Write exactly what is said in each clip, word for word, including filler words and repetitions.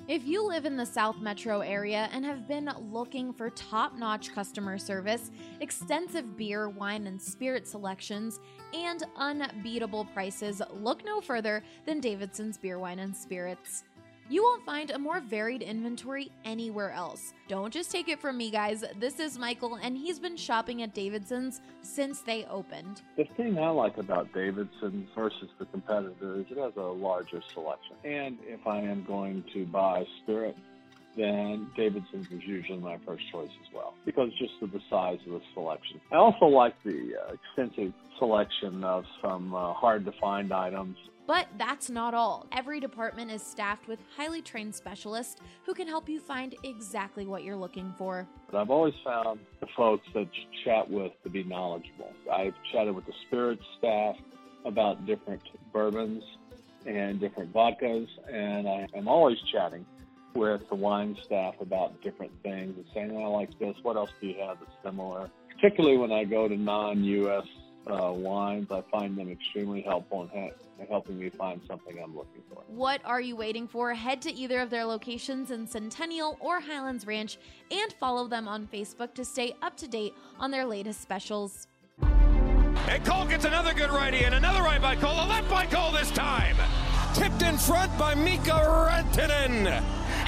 If you live in the South Metro area and have been looking for top-notch customer service, extensive beer, wine, and spirit selections, and unbeatable prices, look no further than Davidson's Beer, Wine, and Spirits. You won't find a more varied inventory anywhere else. Don't just take it from me, guys. This is Michael, and he's been shopping at Davidson's since they opened. The thing I like about Davidson's versus the competitor is it has a larger selection. And if I am going to buy spirit, then Davidson's is usually my first choice as well, because just of the size of the selection. I also like the uh, extensive selection of some uh, hard-to-find items. But that's not all. Every department is staffed with highly trained specialists who can help you find exactly what you're looking for. But I've always found the folks that you chat with to be knowledgeable. I've chatted with the spirits staff about different bourbons and different vodkas, and I am always chatting with the wine staff about different things and saying, oh, I like this, what else do you have that's similar? Particularly when I go to non-U S uh, wines, I find them extremely helpful in ha- helping me find something I'm looking for. What are you waiting for? Head to either of their locations in Centennial or Highlands Ranch and follow them on Facebook to stay up to date on their latest specials. And Cole gets another good righty, and another right by Cole, a left by Cole this time. Tipped in front by Mika Rantanen.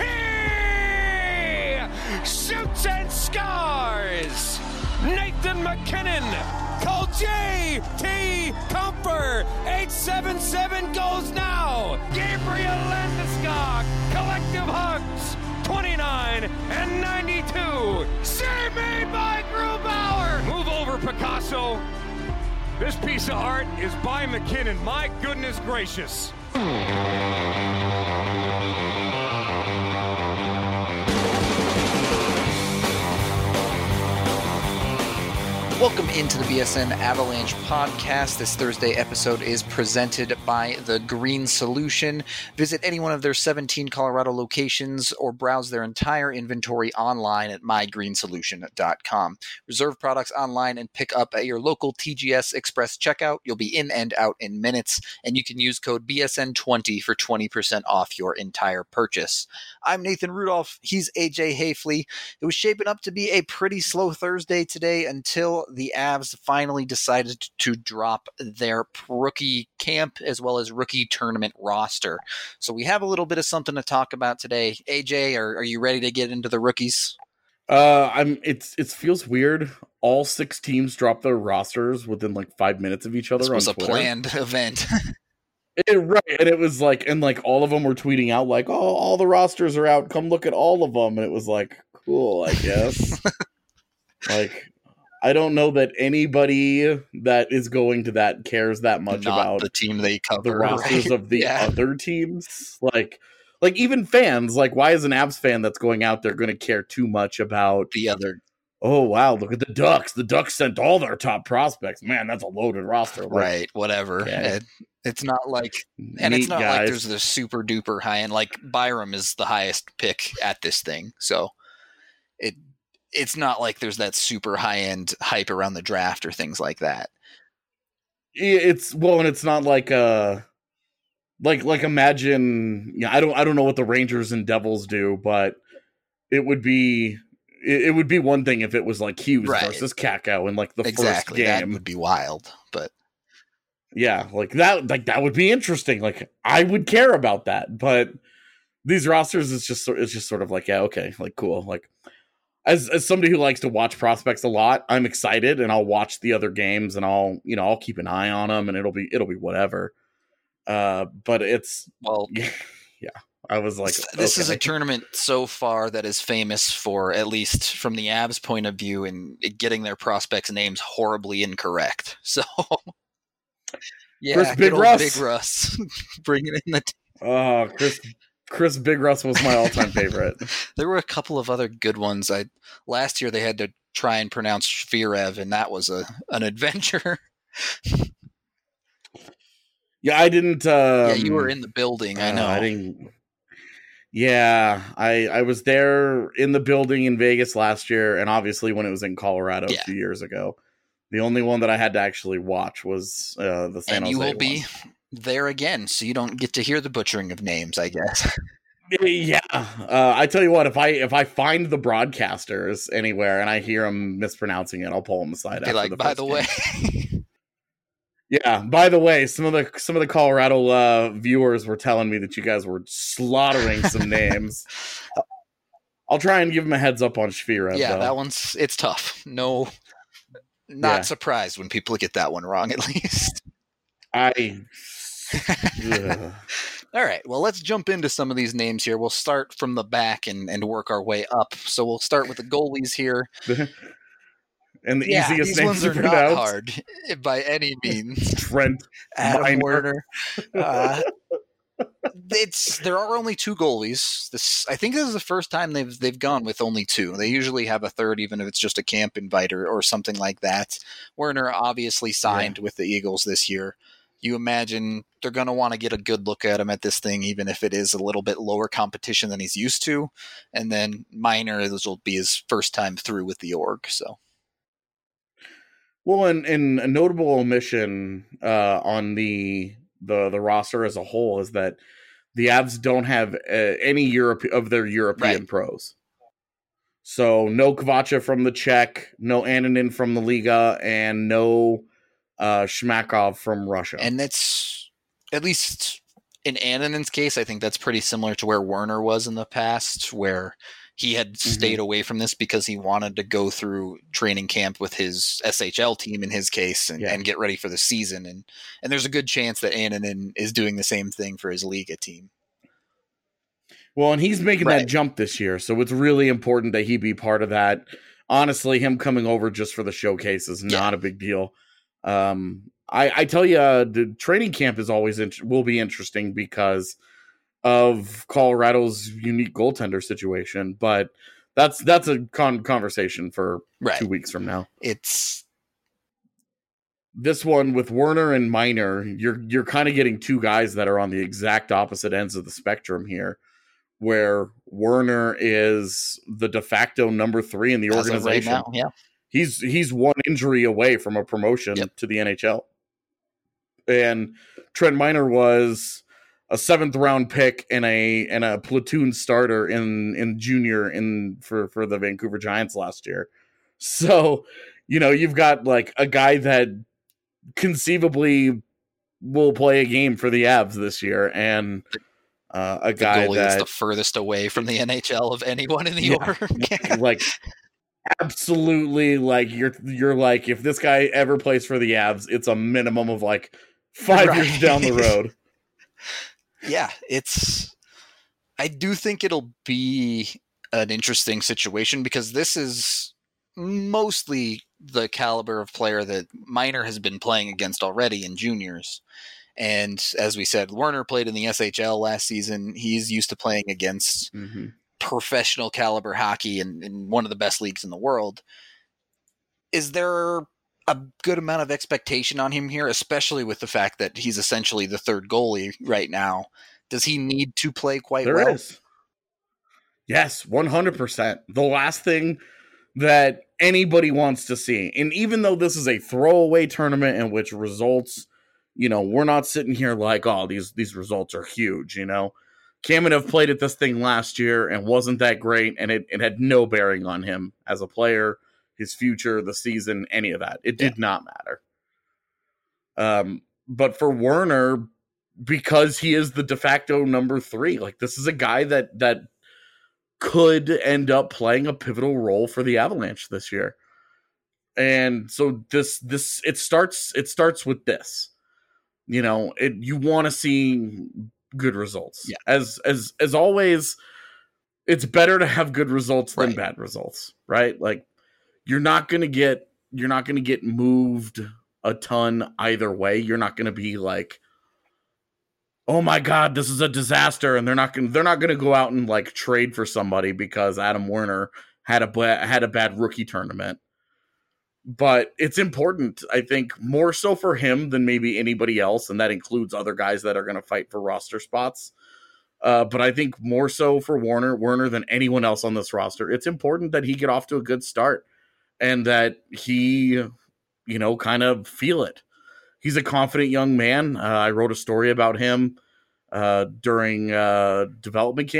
He shoots and scores. Nathan McKinnon. Call J T Comfer. eight seven seven goes now. Gabriel Landeskog. Collective hugs. twenty-nine and ninety-two. Save made by Grubauer. Move over, Picasso. This piece of art is by McKinnon. My goodness gracious. Welcome into the B S N Avalanche podcast. This Thursday episode is presented by The Green Solution. Visit any one of their seventeen Colorado locations or browse their entire inventory online at my green solution dot com. Reserve products online and pick up at your local T G S Express checkout. You'll be in and out in minutes, and you can use code B S N twenty for twenty percent off your entire purchase. I'm Nathan Rudolph. He's A J Hafley. It was shaping up to be a pretty slow Thursday today until the Avs finally decided to drop their rookie camp as well as rookie tournament roster. So we have a little bit of something to talk about today. A J, are, are you ready to get into the rookies? Uh, I'm. It's it feels weird. All six teams dropped their rosters within like five minutes of each other. This was on a Twitter. planned event. It, right, and it was like, and like all of them were tweeting out like, "Oh, all the rosters are out. Come look at all of them." And it was like, cool, I guess. Like, I don't know that anybody that is going to that cares that much Not about the team they cover, the rosters right? of the Yeah. other teams. Like, like even fans, like, why is an Avs fan that's going out there going to care too much about The other, oh, wow, look at the Ducks. The Ducks sent all their top prospects. Man, that's a loaded roster. Like, right, whatever. okay. It, it's not like, and neat it's not guys. like there's the super duper high end, like Byram is the highest pick at this thing. So it, it's not like there's that super high end hype around the draft or things like that. It's, well, and it's not like, uh, like, like imagine, yeah, I don't, I don't know what the Rangers and Devils do, but it would be, it, it would be one thing if it was like Hughes Right. versus Kakko in like the Exactly. first That game. would be wild, but Yeah, like that, like that would be interesting. Like I would care about that, but these rosters is just, it's just sort of like, yeah, okay, like cool. Like as as somebody who likes to watch prospects a lot, I'm excited and I'll watch the other games and I'll, you know, I'll keep an eye on them and it'll be, it'll be whatever. Uh, but it's, well, yeah, I was like, this okay. is a tournament so far that is famous for, at least from the Avs point of view, and getting their prospects' names horribly incorrect. So, yeah, Chris good Big old Russ. Big Russ, bringing in the. T- Oh, Chris, Chris Big Russ was my all-time favorite. there were a couple of other good ones. I last year they had to try and pronounce Shvirev, and that was a an adventure. Yeah, I didn't. Um, yeah, you were in the building. I know. Uh, I didn't. Yeah, I I was there in the building in Vegas last year, and obviously when it was in Colorado Yeah. a few years ago. The only one that I had to actually watch was uh, the San and Jose you will one. be there again, so you don't get to hear the butchering of names, I guess. Yeah, uh, I tell you what, if I if I find the broadcasters anywhere and I hear them mispronouncing it, I'll pull them aside. Be after like, the by first the game. way. Yeah, by the way, some of the some of the Colorado uh, viewers were telling me that you guys were slaughtering some names. I'll try and give them a heads up on Shvira. Yeah, though. that one's it's tough. No, not Yeah. surprised when people get that one wrong. At least. I. Ugh. All right, well, let's jump into some of these names here. We'll start from the back and, and work our way up. So we'll start with the goalies here. And the yeah, easiest these names ones to are not pronounce. hard by any means. Trent Adam Minor. Werner. Uh, it's there are only two goalies. This I think this is the first time they've they've gone with only two. They usually have a third, even if it's just a camp invite or, or something like that. Werner obviously signed yeah. with the Eagles this year. You imagine they're going to want to get a good look at him at this thing, even if it is a little bit lower competition than he's used to. And then Minor, this will be his first time through with the org. So, well, and, and a notable omission uh, on the, the the roster as a whole is that the Avs don't have uh, any Europe of their European right. pros. So no Kovacev from the Czech, no Annunen from the Liga, and no Uh, Shmakov from Russia. And that's, at least in Annanen's case, I think that's pretty similar to where Werner was in the past, where he had mm-hmm. stayed away from this because he wanted to go through training camp with his S H L team in his case and, yeah. and get ready for the season. And, and there's a good chance that Annunen is doing the same thing for his Liga team. Well, and he's making right. that jump this year, so it's really important that he be part of that. Honestly, him coming over just for the showcase is not yeah. a big deal. Um, I, I tell you, uh, the training camp is always int- will be interesting because of Colorado's unique goaltender situation. But that's that's a con- conversation for right. two weeks from now. It's this one with Werner and Minor. You're you're kind of getting two guys that are on the exact opposite ends of the spectrum here, where Werner is the de facto number three in the As organization. Of right now, yeah. He's he's one injury away from a promotion yep. to the N H L. And Trent Minor was a seventh round pick and a and a platoon starter in, in junior in for, for the Vancouver Giants last year. So, you know, you've got like a guy that conceivably will play a game for the Avs this year, and uh, a the guy goalie that, that's the furthest away from the N H L of anyone in the yeah, org. like absolutely, like you're you're like, if this guy ever plays for the Avs, it's a minimum of like five right. years down the road. Yeah, it's I do think it'll be an interesting situation because this is mostly the caliber of player that Minor has been playing against already in juniors. And as we said, Werner played in the S H L last season. He's used to playing against mm-hmm. professional caliber hockey in, in one of the best leagues in the world. Is there a good amount of expectation on him here, especially with the fact that he's essentially the third goalie right now? Does he need to play quite there well? Is. Yes, one hundred percent. The last thing that anybody wants to see, and even though this is a throwaway tournament in which results, you know, we're not sitting here like, oh, these these results are huge, you know. Kamenev played at this thing last year and wasn't that great, and it, it had no bearing on him as a player, his future, the season, any of that. It did yeah. not matter. Um, but for Werner, because he is the de facto number three, like this is a guy that that could end up playing a pivotal role for the Avalanche this year. And so this this it starts it starts with this. You know, it you want to see good results. Yeah. As as as always, it's better to have good results than right. bad results, right? Like you're not going to get you're not going to get moved a ton either way. You're not going to be like, oh my God, this is a disaster, and they're not going they're not going to go out and like trade for somebody because Adam Werner had a ba- had a bad rookie tournament. But it's important, I think, more so for him than maybe anybody else, and that includes other guys that are going to fight for roster spots. Uh, but I think more so for Werner, Werner than anyone else on this roster. It's important that he get off to a good start and that he, you know, kind of feel it. He's a confident young man. Uh, I wrote a story about him uh, during uh, development camp,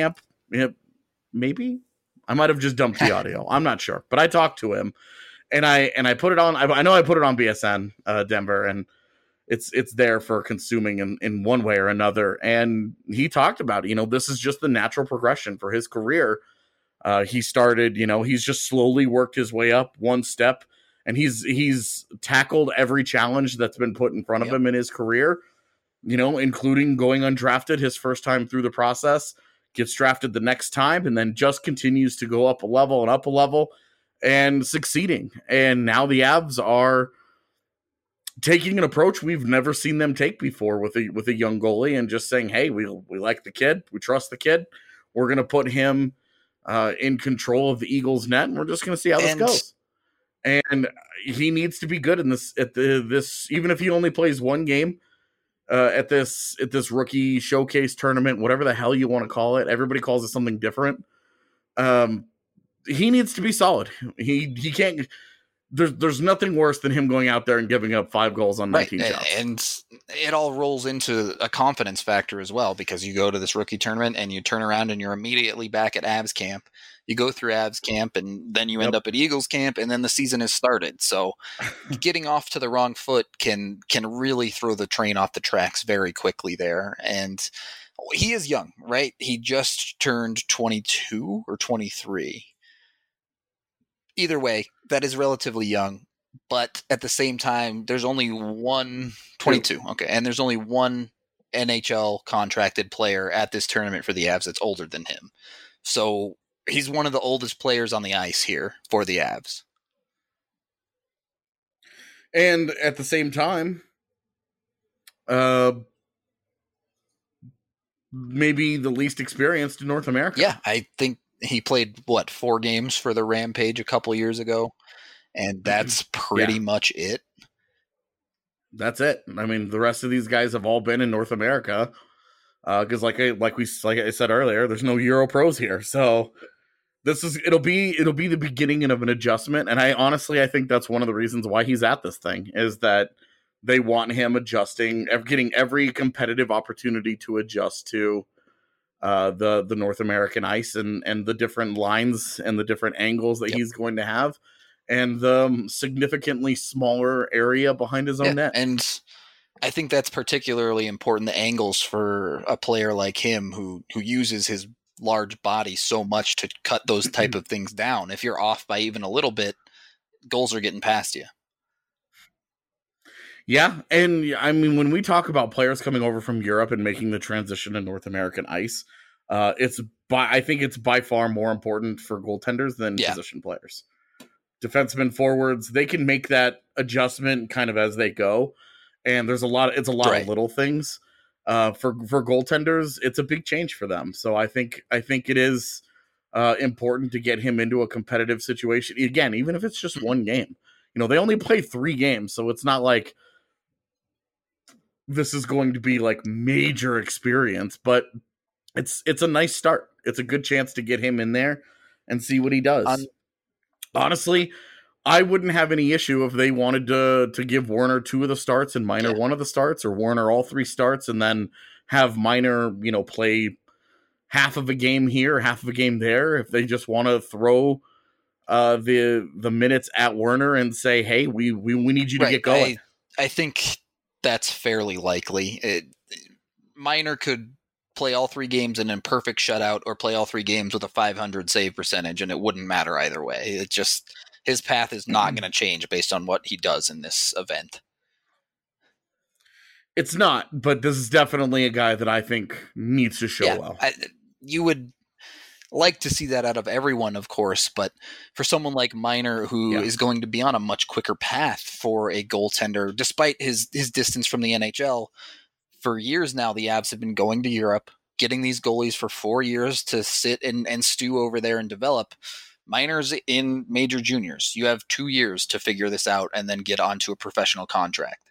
Yeah, maybe I might have just dumped the audio. I'm not sure, but I talked to him, and I and I put it on. I, I know I put it on B S N uh, Denver, and it's it's there for consuming in, in one way or another. And he talked about it. You know, this is just the natural progression for his career. Uh, he started, you know, he's just slowly worked his way up one step, and he's he's tackled every challenge that's been put in front of Yep. him in his career, you know, including going undrafted his first time through the process, gets drafted the next time, and then just continues to go up a level and up a level and succeeding. And now the Avs are taking an approach we've never seen them take before with a with a young goalie, and just saying, hey, we we like the kid, we trust the kid, we're going to put him uh, in control of the Eagles' net, and we're just going to see how this And- goes. And he needs to be good in this at the this even if he only plays one game uh, at this at this rookie showcase tournament, whatever the hell you want to call it. Everybody calls it something different. Um, he needs to be solid. He he can't. There's there's nothing worse than him going out there and giving up five goals on Right. nineteen And, shots. and it all rolls into a confidence factor as well, because you go to this rookie tournament and you turn around and you're immediately back at Avs camp. You go through Avs camp and then you end Yep. up at Eagles camp, and then the season has started. So getting off to the wrong foot can can really throw the train off the tracks very quickly there. And he is young, right? He just turned twenty-two or twenty-three. Either way, that is relatively young. But at the same time, there's only one twenty-two. Okay. And there's only one N H L contracted player at this tournament for the Avs that's older than him. So he's one of the oldest players on the ice here for the Avs. And at the same time, uh, maybe the least experienced in North America. Yeah, I think he played, what, four games for the Rampage a couple years ago, and that's pretty Yeah. much it. That's it. I mean, the rest of these guys have all been in North America, because, uh, like I like we like I said earlier, there's no Euro pros here, so this is it'll be it'll be the beginning of an adjustment. And I honestly I think that's one of the reasons why he's at this thing, is that they want him adjusting, getting every competitive opportunity to adjust to uh, the the North American ice and and the different lines and the different angles that Yep. he's going to have, and the um, significantly smaller area behind his own Yeah, net. and I think that's particularly important, the angles for a player like him who who uses his large body so much to cut those type of things down. If you're off by even a little bit, goals are getting past you. Yeah, and I mean, when we talk about players coming over from Europe and making the transition to North American ice, uh, it's by I think it's by far more important for goaltenders than Yeah. position players. Defensemen, forwards, they can make that adjustment kind of as they go, and there's a lot. It's a lot Right. of little things. Uh, for for goaltenders, it's a big change for them. So I think I think it is uh, important to get him into a competitive situation again, even if it's just one game. You know, they only play three games, so it's not like this is going to be like major experience, but it's it's a nice start. It's a good chance to get him in there and see what he does. Um, Honestly, I wouldn't have any issue if they wanted to to give Warner two of the starts and Minor Yeah. one of the starts, or Warner all three starts, and then have Minor, you know, play half of a game here, half of a game there. If they just want to throw uh, the the minutes at Werner and say, "Hey, we we, we need you to Right. get going." I, I think that's fairly likely. It, Minor could play all three games in a perfect shutout, or play all three games with a five hundred save percentage, and it wouldn't matter either way. It just his path is not going to change based on what he does in this event. It's not, but this is definitely a guy that I think needs to show yeah, well. I, you would like to see that out of everyone, of course, but for someone like Minor, who Yeah. is going to be on a much quicker path for a goaltender, despite his his distance from the N H L, for years now, the Avs have been going to Europe, getting these goalies for four years to sit and, and stew over there and develop. Minor's in major juniors. You have two years to figure this out and then get onto a professional contract.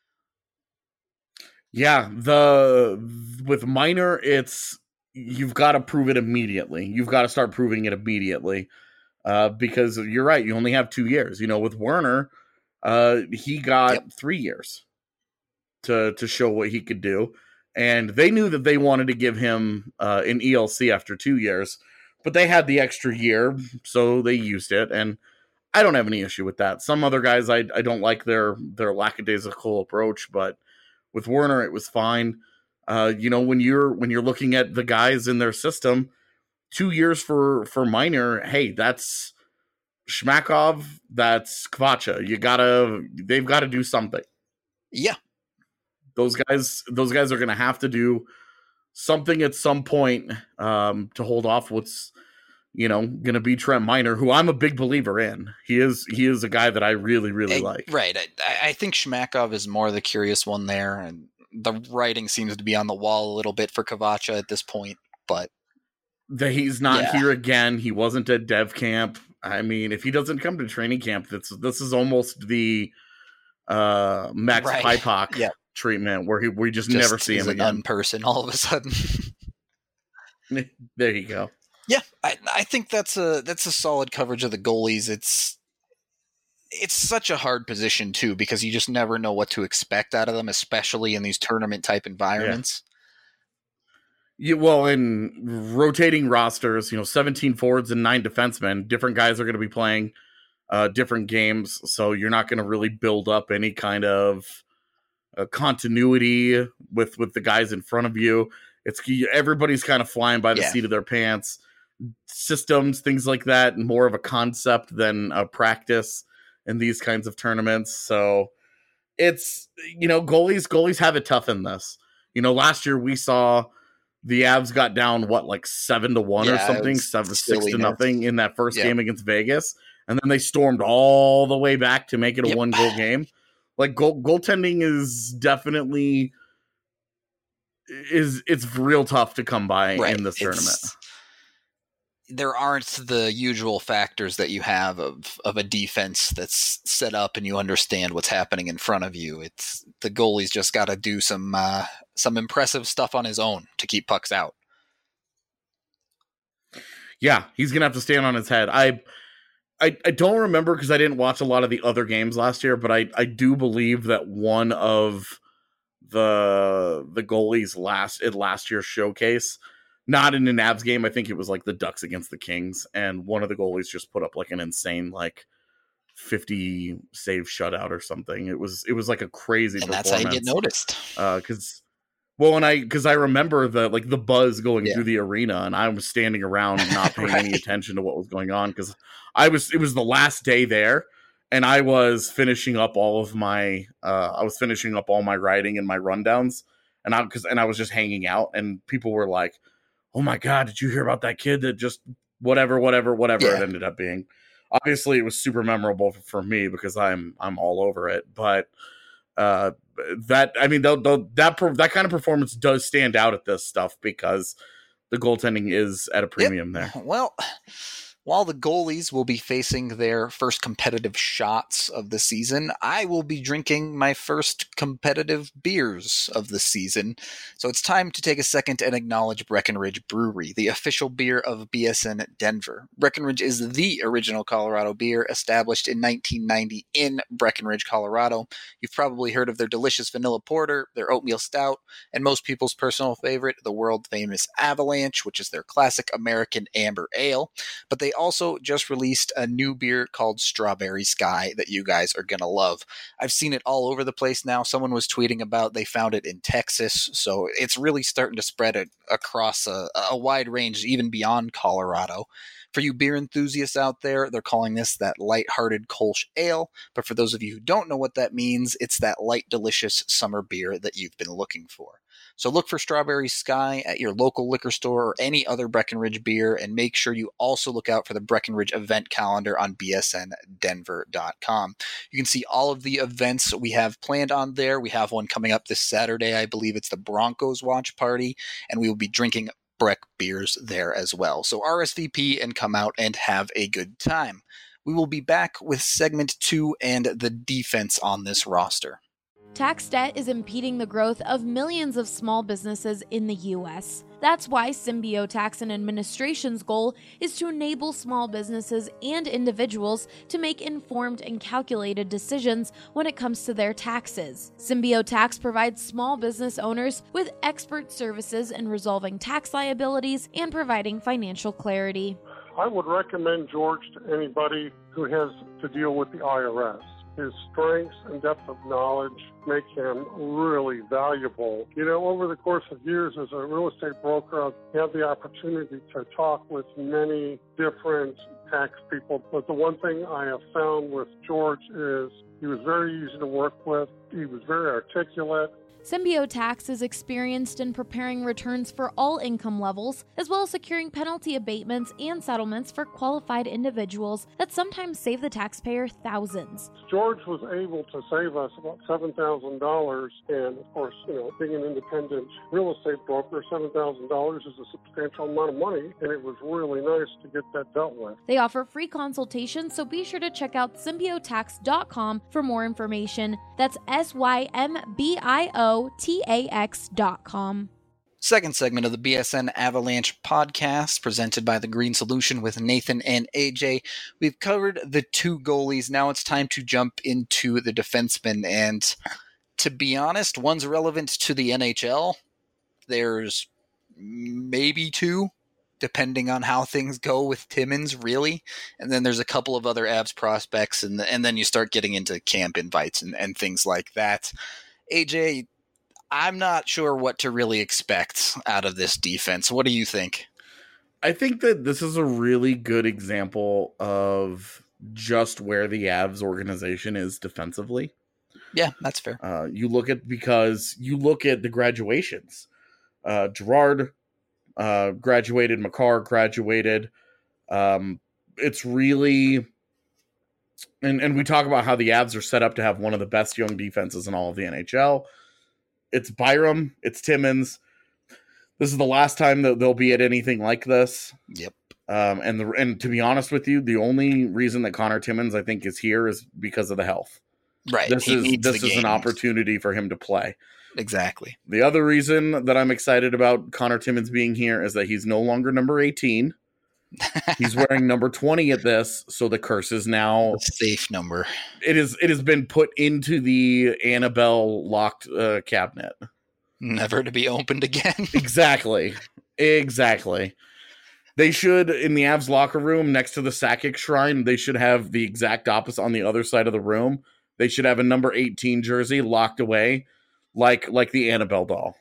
Yeah, the with Minor, it's you've got to prove it immediately. You've got to start proving it immediately, uh, because you're right. You only have two years. You know, with Werner, uh, he got Yep. three years to to show what he could do, And they knew that they wanted to give him uh, an E L C after two years, but they had the extra year, so they used it. And I don't have any issue with that. Some other guys, I I don't like their their lackadaisical approach, but with Werner, it was fine. Uh, you know, when you're when you're looking at the guys in their system, two years for for Minor, hey, that's Shmakov, that's Kvacha. You gotta, they've got to do something. Yeah, those guys, those guys are gonna have to do something at some point um, to hold off what's, you know, going to be Trent Minor, who I'm a big believer in. He is he is a guy that I really, really I, like. Right. I, I think Shmakov is more the curious one there, and the writing seems to be on the wall a little bit for Kvacha at this point, but... That he's not yeah. here again. He wasn't at dev camp. I mean, if he doesn't come to training camp, that's this is almost the uh, Max right. Pipak yeah. treatment, where he, we just, just never see him again. An unperson all of a sudden. There you go. Yeah, I, I think that's a that's a solid coverage of the goalies. It's it's such a hard position too, because you just never know what to expect out of them, especially in these tournament type environments. Yeah, well, in rotating rosters, you know, seventeen forwards and nine defensemen, different guys are going to be playing uh, different games, so you're not going to really build up any kind of uh, continuity with with the guys in front of you. It's everybody's kind of flying by the yeah. seat of their pants. Systems, things like that, more of a concept than a practice in these kinds of tournaments. So it's, you know, goalies goalies have it tough in this. You know, last year we saw the Avs got down what, like seven to one yeah, or something, seven six to nothing in that first yeah. game against Vegas, and then they stormed all the way back to make it a yep. one goal game. Like goal goaltending is definitely is it's real tough to come by right. in this it's, tournament. There aren't the usual factors that you have of, of a defense that's set up and you understand what's happening in front of you. It's the goalie's just got to do some uh, some impressive stuff on his own to keep pucks out. Yeah, he's gonna have to stand on his head. I I, I don't remember because I didn't watch a lot of the other games last year, but I, I do believe that one of the the goalies last at last year's showcase, not in an Avs game, I think it was like the Ducks against the Kings, and one of the goalies just put up like an insane like fifty save shutout or something. It was it was like a crazy and performance. That's how you get noticed. Because uh, well, and I because I remember the like the buzz going yeah. through the arena, and I was standing around not paying right. any attention to what was going on because I was it was the last day there. And I was finishing up all of my, uh, I was finishing up all my writing and my rundowns, and I because and I was just hanging out, and people were like, "Oh my god, did you hear about that kid that just whatever, whatever, whatever yeah. it ended up being?" Obviously, it was super memorable for, for me because I'm I'm all over it. But uh, that I mean, the, the, that that kind of performance does stand out at this stuff because the goaltending is at a premium yep. there. Well. While the goalies will be facing their first competitive shots of the season, I will be drinking my first competitive beers of the season. So it's time to take a second and acknowledge Breckenridge Brewery, the official beer of B S N Denver. Breckenridge is the original Colorado beer, established in nineteen ninety in Breckenridge, Colorado. You've probably heard of their delicious vanilla porter, their oatmeal stout, and most people's personal favorite, the world-famous Avalanche, which is their classic American amber ale. But they also just released a new beer called Strawberry Sky that you guys are going to love. I've seen it all over the place now. Someone was tweeting about they found it in Texas, so it's really starting to spread it across a, a wide range, even beyond Colorado. For you beer enthusiasts out there, they're calling this that light-hearted Kolsch ale, but for those of you who don't know what that means, it's that light, delicious summer beer that you've been looking for. So look for Strawberry Sky at your local liquor store or any other Breckenridge beer, and make sure you also look out for the Breckenridge event calendar on B S N Denver dot com. You can see all of the events we have planned on there. We have one coming up this Saturday. I believe it's the Broncos watch party, and we will be drinking Breck beers there as well. So R S V P and come out and have a good time. We will be back with segment two and the defense on this roster. Tax debt is impeding the growth of millions of small businesses in the U S. That's why Symbio Tax and Administration's goal is to enable small businesses and individuals to make informed and calculated decisions when it comes to their taxes. Symbio Tax provides small business owners with expert services in resolving tax liabilities and providing financial clarity. I would recommend George to anybody who has to deal with the I R S. His strengths and depth of knowledge make him really valuable. You know, over the course of years as a real estate broker, I've had the opportunity to talk with many different tax people. But the one thing I have found with George is he was very easy to work with. He was very articulate. Symbio Tax is experienced in preparing returns for all income levels, as well as securing penalty abatements and settlements for qualified individuals that sometimes save the taxpayer thousands. George was able to save us about seven thousand dollars, and of course, you know, being an independent real estate broker, seven thousand dollars is a substantial amount of money, and it was really nice to get that dealt with. They offer free consultations, so be sure to check out symbio tax dot com for more information. That's S Y M B I O T A X dot com. Second segment of the B S N Avalanche podcast, presented by The Green Solution with Nathan and A J. We've covered the two goalies. Now it's time to jump into the defensemen. And to be honest, one's relevant to the N H L. There's maybe two, depending on how things go with Timmins, really. And then there's a couple of other Avs prospects, and, the, and then you start getting into camp invites and, and things like that. A J, I'm not sure what to really expect out of this defense. What do you think? I think that this is a really good example of just where the Avs organization is defensively. Yeah, that's fair. Uh, you look at, because you look at the graduations. Uh, Gerard uh, graduated, Makar graduated. Um, it's really, and, and we talk about how the Avs are set up to have one of the best young defenses in all of the N H L. It's Byram, it's Timmins. This is the last time that they'll be at anything like this. Yep. Um, and the and to be honest with you, the only reason that Connor Timmins, I think, is here is because of the health. Right. This he is this is an opportunity for him to play. Exactly. The other reason that I'm excited about Connor Timmins being here is that he's no longer number eighteen. He's wearing number twenty at this, so the curse is now a safe number. It is. It has been put into the Annabelle locked uh, cabinet, never to be opened again. Exactly. Exactly. They should, in the Avs locker room next to the Sakic shrine, they should have the exact opposite on the other side of the room. They should have a number eighteen jersey locked away, like like the Annabelle doll.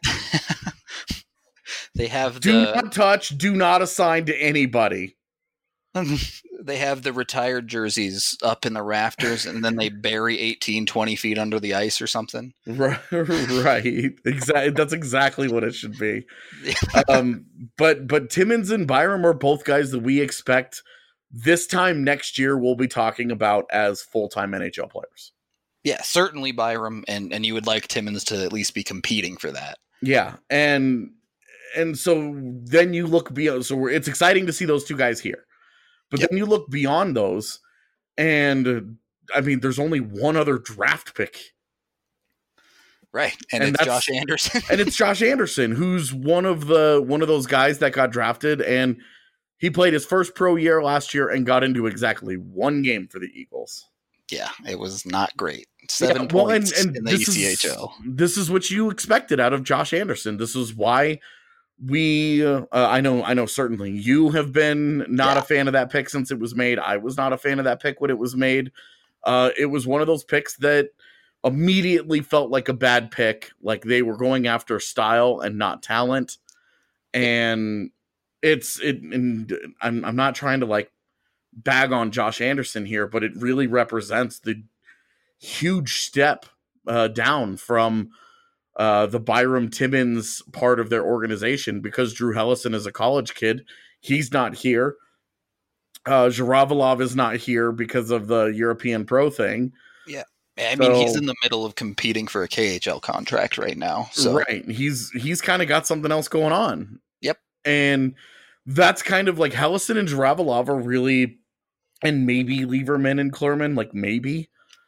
They have the, do not touch, do not assign to anybody. They have the retired jerseys up in the rafters, and then they bury eighteen, twenty feet under the ice or something. Right. Right. Exactly. That's exactly what it should be. um, but but Timmins and Byram are both guys that we expect this time next year we'll be talking about as full-time N H L players. Yeah, certainly Byram, and, and you would like Timmins to at least be competing for that. Yeah, and and so then you look beyond. So we're, it's exciting to see those two guys here, but yep. Then you look beyond those, and I mean, there's only one other draft pick, right? And, and it's Josh Anderson, and it's Josh Anderson, who's one of the one of those guys that got drafted, and he played his first pro year last year and got into exactly one game for the Eagles. Yeah, it was not great. Seven yeah, well, points and, and in the this E C H L. Is, this is what you expected out of Josh Anderson. This is why we, uh, I know, I know certainly you have been not yeah. a fan of that pick since it was made. I was not a fan of that pick when it was made. Uh, it was one of those picks that immediately felt like a bad pick, like they were going after style and not talent. And it's, it, and I'm, I'm not trying to like bag on Josh Anderson here, but it really represents the huge step uh, down from uh, the Byram Timmins part of their organization, because Drew Hellison is a college kid. He's not here. Uh, Zhiravalov is not here because of the European Pro thing. Yeah. I mean, so, he's in the middle of competing for a K H L contract right now. So. Right. He's, he's kind of got something else going on. Yep. And that's kind of like Hellison and Zhiravalov are really, and maybe Lieberman and Klurman, like maybe.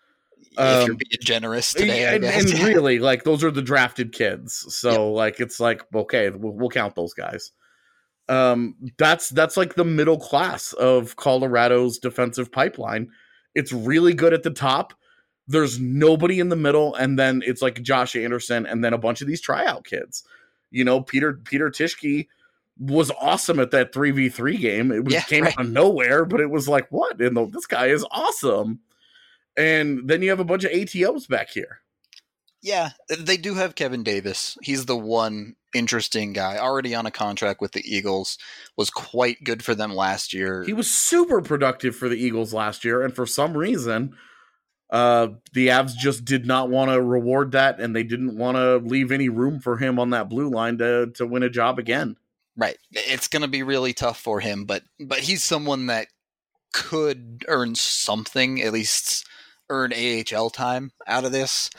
If you're Um, being generous today, I and, guess. and really, like, those are the drafted kids. So, yep. like, it's like, okay, we'll, we'll count those guys. Um, that's that's like the middle class of Colorado's defensive pipeline. It's really good at the top. There's nobody in the middle, and then it's like Josh Anderson, and then a bunch of these tryout kids. You know, Peter Peter Tischke was awesome at that three v three game. It was, yeah, came right. out of nowhere, but it was like, what? And the, this guy is awesome. And then you have a bunch of A T Os back here. Yeah, they do have Kevin Davis. He's the one interesting guy, already on a contract with the Eagles, was quite good for them last year. He was super productive for the Eagles last year, and for some reason, uh, the Avs just did not want to reward that, and they didn't want to leave any room for him on that blue line to, to win a job again. Right. It's going to be really tough for him, but but he's someone that could earn something, at least earn A H L time out of this.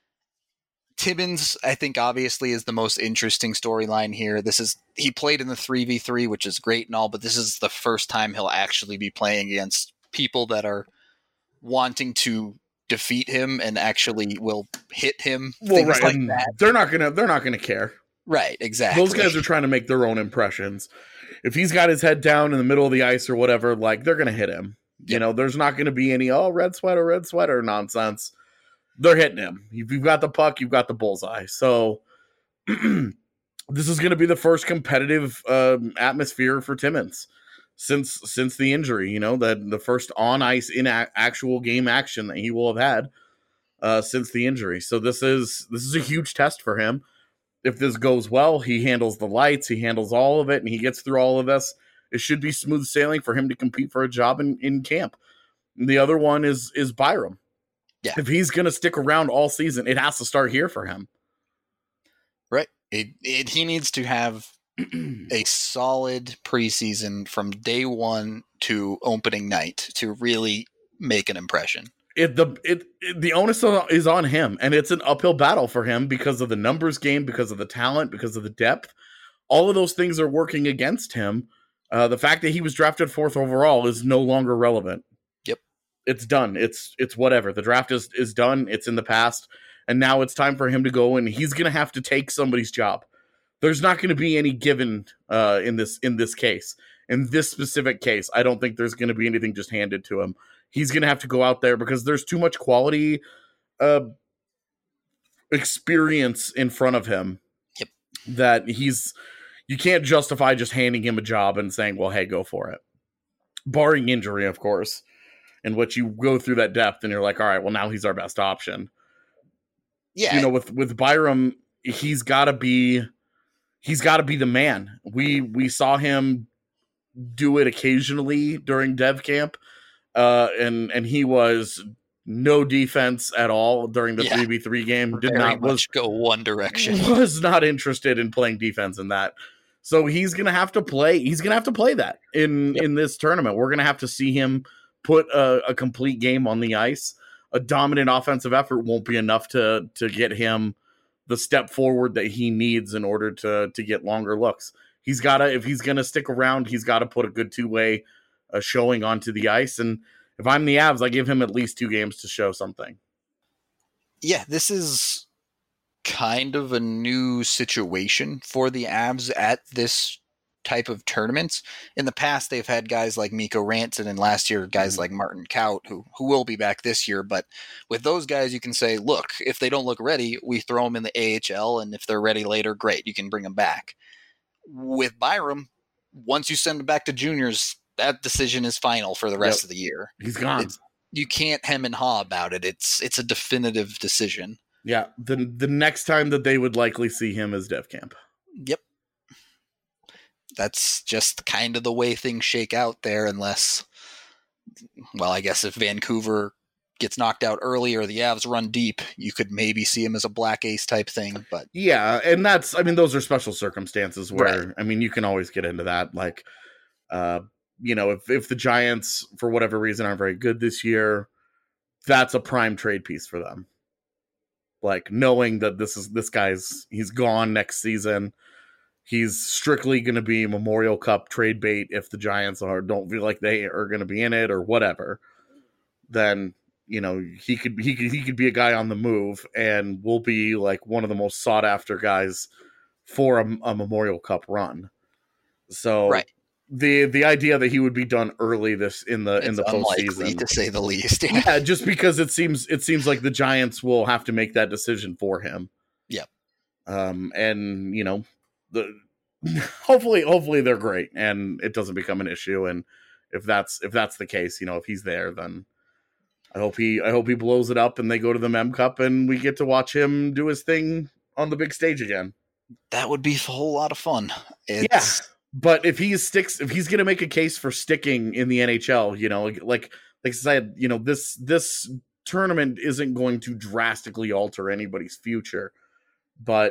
Timmins, I think, obviously is the most interesting storyline here. This is he played in the three v three, which is great and all, but this is the first time he'll actually be playing against people that are wanting to defeat him and actually will hit him. Well, right. Like that. They're not gonna they're not gonna care. Right, exactly. Those guys are trying to make their own impressions. If he's got his head down in the middle of the ice or whatever, like, they're gonna hit him. Yep. You know, there's not gonna be any oh red sweater, red sweater nonsense. They're hitting him. If you've got the puck, you've got the bullseye. So this is going to be the first competitive um, atmosphere for Timmins since since the injury. You know, that the first on ice in a- actual game action that he will have had uh, since the injury. So this is this is a huge test for him. If this goes well, he handles the lights, he handles all of it, and he gets through all of this. It should be smooth sailing for him to compete for a job in, in camp. And the other one is is Byram. Yeah. If he's going to stick around all season, it has to start here for him. Right. It, it, he needs to have a solid preseason from day one to opening night to really make an impression. It the it, it the onus is on him, and it's an uphill battle for him because of the numbers game, because of the talent, because of the depth. All of those things are working against him. Uh, the fact that he was drafted fourth overall is no longer relevant. It's done. It's it's whatever. The draft is, is done. It's in the past. And now it's time for him to go, and he's going to have to take somebody's job. There's not going to be any given uh, in this in this case. In this specific case, I don't think there's going to be anything just handed to him. He's going to have to go out there because there's too much quality uh, experience in front of him. Yep. That he's you can't justify just handing him a job and saying, well, hey, go for it. Barring injury, of course. In which you go through that depth and you're like, all right, well, now he's our best option. Yeah. You know, with, with Byram, he's gotta be, he's gotta be the man. We, we saw him do it occasionally during dev camp. Uh, and, and he was no defense at all during the three v three game. Did Very not much was, go one direction. Was not interested in playing defense in that. So he's going to have to play. He's going to have to play that in, yep. in this tournament. We're going to have to see him put a, a complete game on the ice. A dominant offensive effort won't be enough to to get him the step forward that he needs in order to to get longer looks. He's got to, if he's going to stick around, he's got to put a good two-way uh, showing onto the ice. And if I'm the Avs, I give him at least two games to show something. Yeah, this is kind of a new situation for the Avs at this type of tournaments. In the past, they've had guys like Mikko Rantanen, and last year guys mm-hmm. like Martin Kaut, who who will be back this year. But with those guys, you can say, look, if they don't look ready, we throw them in the A H L, and if they're ready later, great, you can bring them back. With Byram, once you send him back to juniors, that decision is final for the rest yep. of the year. He's gone. It's, you can't hem and haw about it. It's it's a definitive decision. Yeah, the the next time that they would likely see him is Dev Camp. Yep. That's just kind of the way things shake out there, unless, well, I guess if Vancouver gets knocked out early or the Avs run deep, you could maybe see him as a black ace type thing. But yeah, and that's, I mean, those are special circumstances where, right. I mean, you can always get into that. Like, uh, you know, if, if the Giants, for whatever reason, aren't very good this year, that's a prime trade piece for them. Like, knowing that this is, this guy's, he's gone next season. He's strictly going to be Memorial Cup trade bait if the Giants are don't feel like they are going to be in it or whatever. Then you know, he could he could he could be a guy on the move and will be like one of the most sought after guys for a, a Memorial Cup run. So right. the the idea that he would be done early this in the It's in the unlikely, postseason, to say the least. yeah, just because it seems it seems like the Giants will have to make that decision for him. Yep. Um, and you know, the hopefully hopefully they're great and it doesn't become an issue. And if that's if that's the case, you know, if he's there, then I hope he I hope he blows it up and they go to the Mem Cup and we get to watch him do his thing on the big stage again. That would be a whole lot of fun. It's... Yeah, but if he sticks, if he's going to make a case for sticking in the N H L, you know, like like I said, you know, this this tournament isn't going to drastically alter anybody's future, but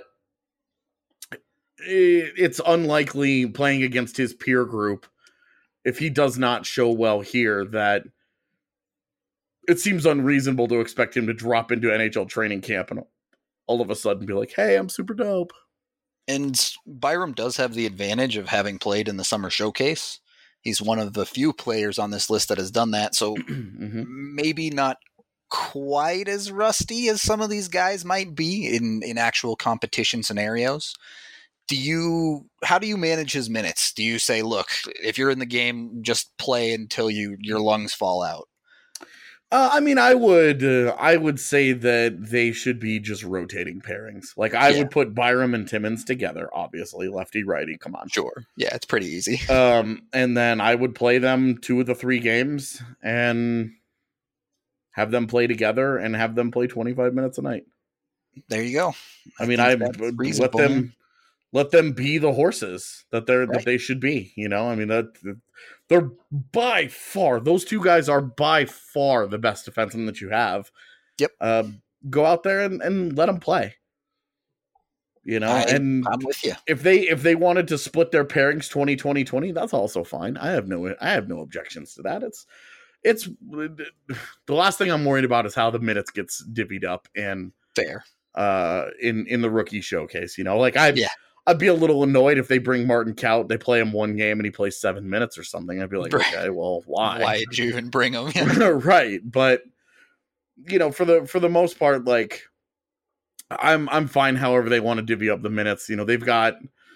it, it's unlikely playing against his peer group if he does not show well here that it seems unreasonable to expect him to drop into N H L training camp and all of a sudden be like, hey, I'm super dope. And Byram does have the advantage of having played in the Summer Showcase. He's one of the few players on this list that has done that, so mm-hmm. maybe not quite as rusty as some of these guys might be in, in actual competition scenarios. Do you, how do you manage his minutes? Do you say, look, if you're in the game, just play until you your lungs fall out? Uh, I mean, I would, uh, I would say that they should be just rotating pairings. Like I yeah. would put Byram and Timmins together, obviously, lefty righty. Come on, sure, yeah, it's pretty easy. Um, and then I would play them two of the three games and have them play together and have them play twenty-five minutes a night. There you go. I, I mean, I let them let them be the horses that they're right. that they should be. You know, I mean that. They're by far, those two guys are by far the best defensemen that you have. Yep. Uh, go out there and, and let them play. You know, I, and I'm with you. If they if they wanted to split their pairings twenty twenty twenty, that's also fine. I have no I have no objections to that. It's it's the last thing I'm worried about is how the minutes gets divvied up and fair. Uh, in in the rookie showcase, you know, like I yeah. I'd be a little annoyed if they bring Martin Kaut, they play him one game and he plays seven minutes or something. I'd be like, right. okay, well, why? Why did you even bring him? Right. But you know, for the for the most part, like I'm I'm fine however they want to divvy up the minutes. You know, they've got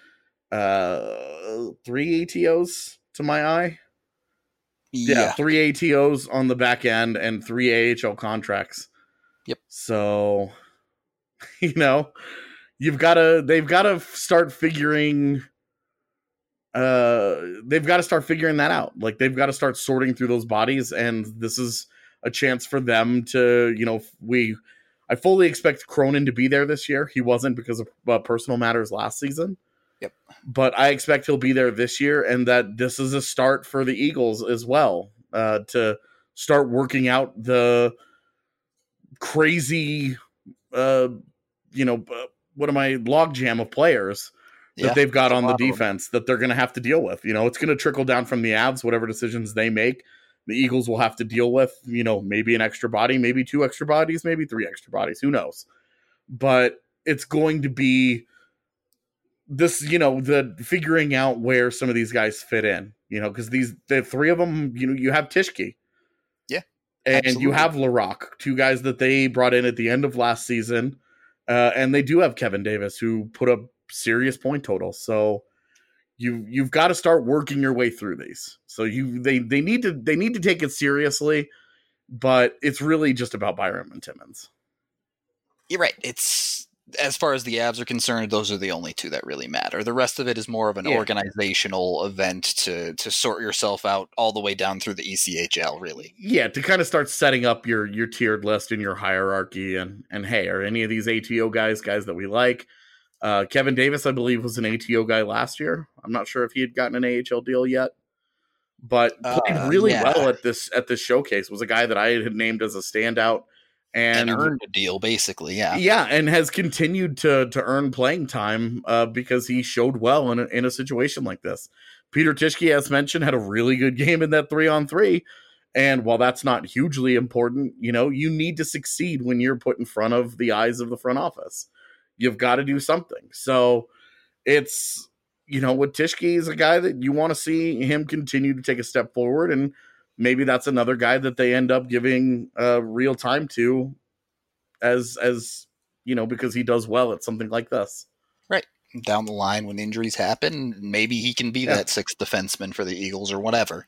uh three A T Os to my eye. Yeah, yeah three A T Os on the back end and three A H L contracts. Yep. So, you know, You've got to, they've got to start figuring, uh, they've got to start figuring that out. Like they've got to start sorting through those bodies. And this is a chance for them to, you know, we, I fully expect Cronin to be there this year. He wasn't because of uh, personal matters last season. Yep. But I expect he'll be there this year and that this is a start for the Eagles as well, uh, to start working out the crazy, uh, you know, uh, what am I logjam of players that yeah, they've got on the defense that they're going to have to deal with. You know, it's going to trickle down from the Avs, whatever decisions they make, the Eagles will have to deal with, you know, maybe an extra body, maybe two extra bodies, maybe three extra bodies, who knows? But it's going to be this, you know, the figuring out where some of these guys fit in, you know, because these, the three of them, you know, you have Tishke. Yeah. And absolutely. You have Larocque, two guys that they brought in at the end of last season. Uh, and they do have Kevin Davis, who put up serious point totals. So you you've got to start working your way through these. So you they they need to they need to take it seriously, but it's really just about Byram and Timmins. You're right. It's as far as the Avs are concerned, those are the only two that really matter. The rest of it is more of an yeah. organizational event to to sort yourself out all the way down through the E C H L, really. Yeah, to kind of start setting up your your tiered list and your hierarchy. And, and hey, are any of these A T O guys guys that we like? Uh, Kevin Davis, I believe, was an A T O guy last year. I'm not sure if he had gotten an A H L deal yet. But played uh, really yeah. well at this at this showcase. Was a guy that I had named as a standout. And, and earned a deal, basically, yeah. Yeah, and has continued to to earn playing time uh, because he showed well in a, in a situation like this. Peter Tishke, as mentioned, had a really good game in that three-on-three. And while that's not hugely important, you know, you need to succeed when you're put in front of the eyes of the front office. You've got to do something. So it's, you know, with Tishke is a guy that you want to see him continue to take a step forward and maybe that's another guy that they end up giving uh, real time to as, as you know, because he does well at something like this. Right. Down the line when injuries happen, maybe he can be Yeah. that sixth defenseman for the Eagles or whatever.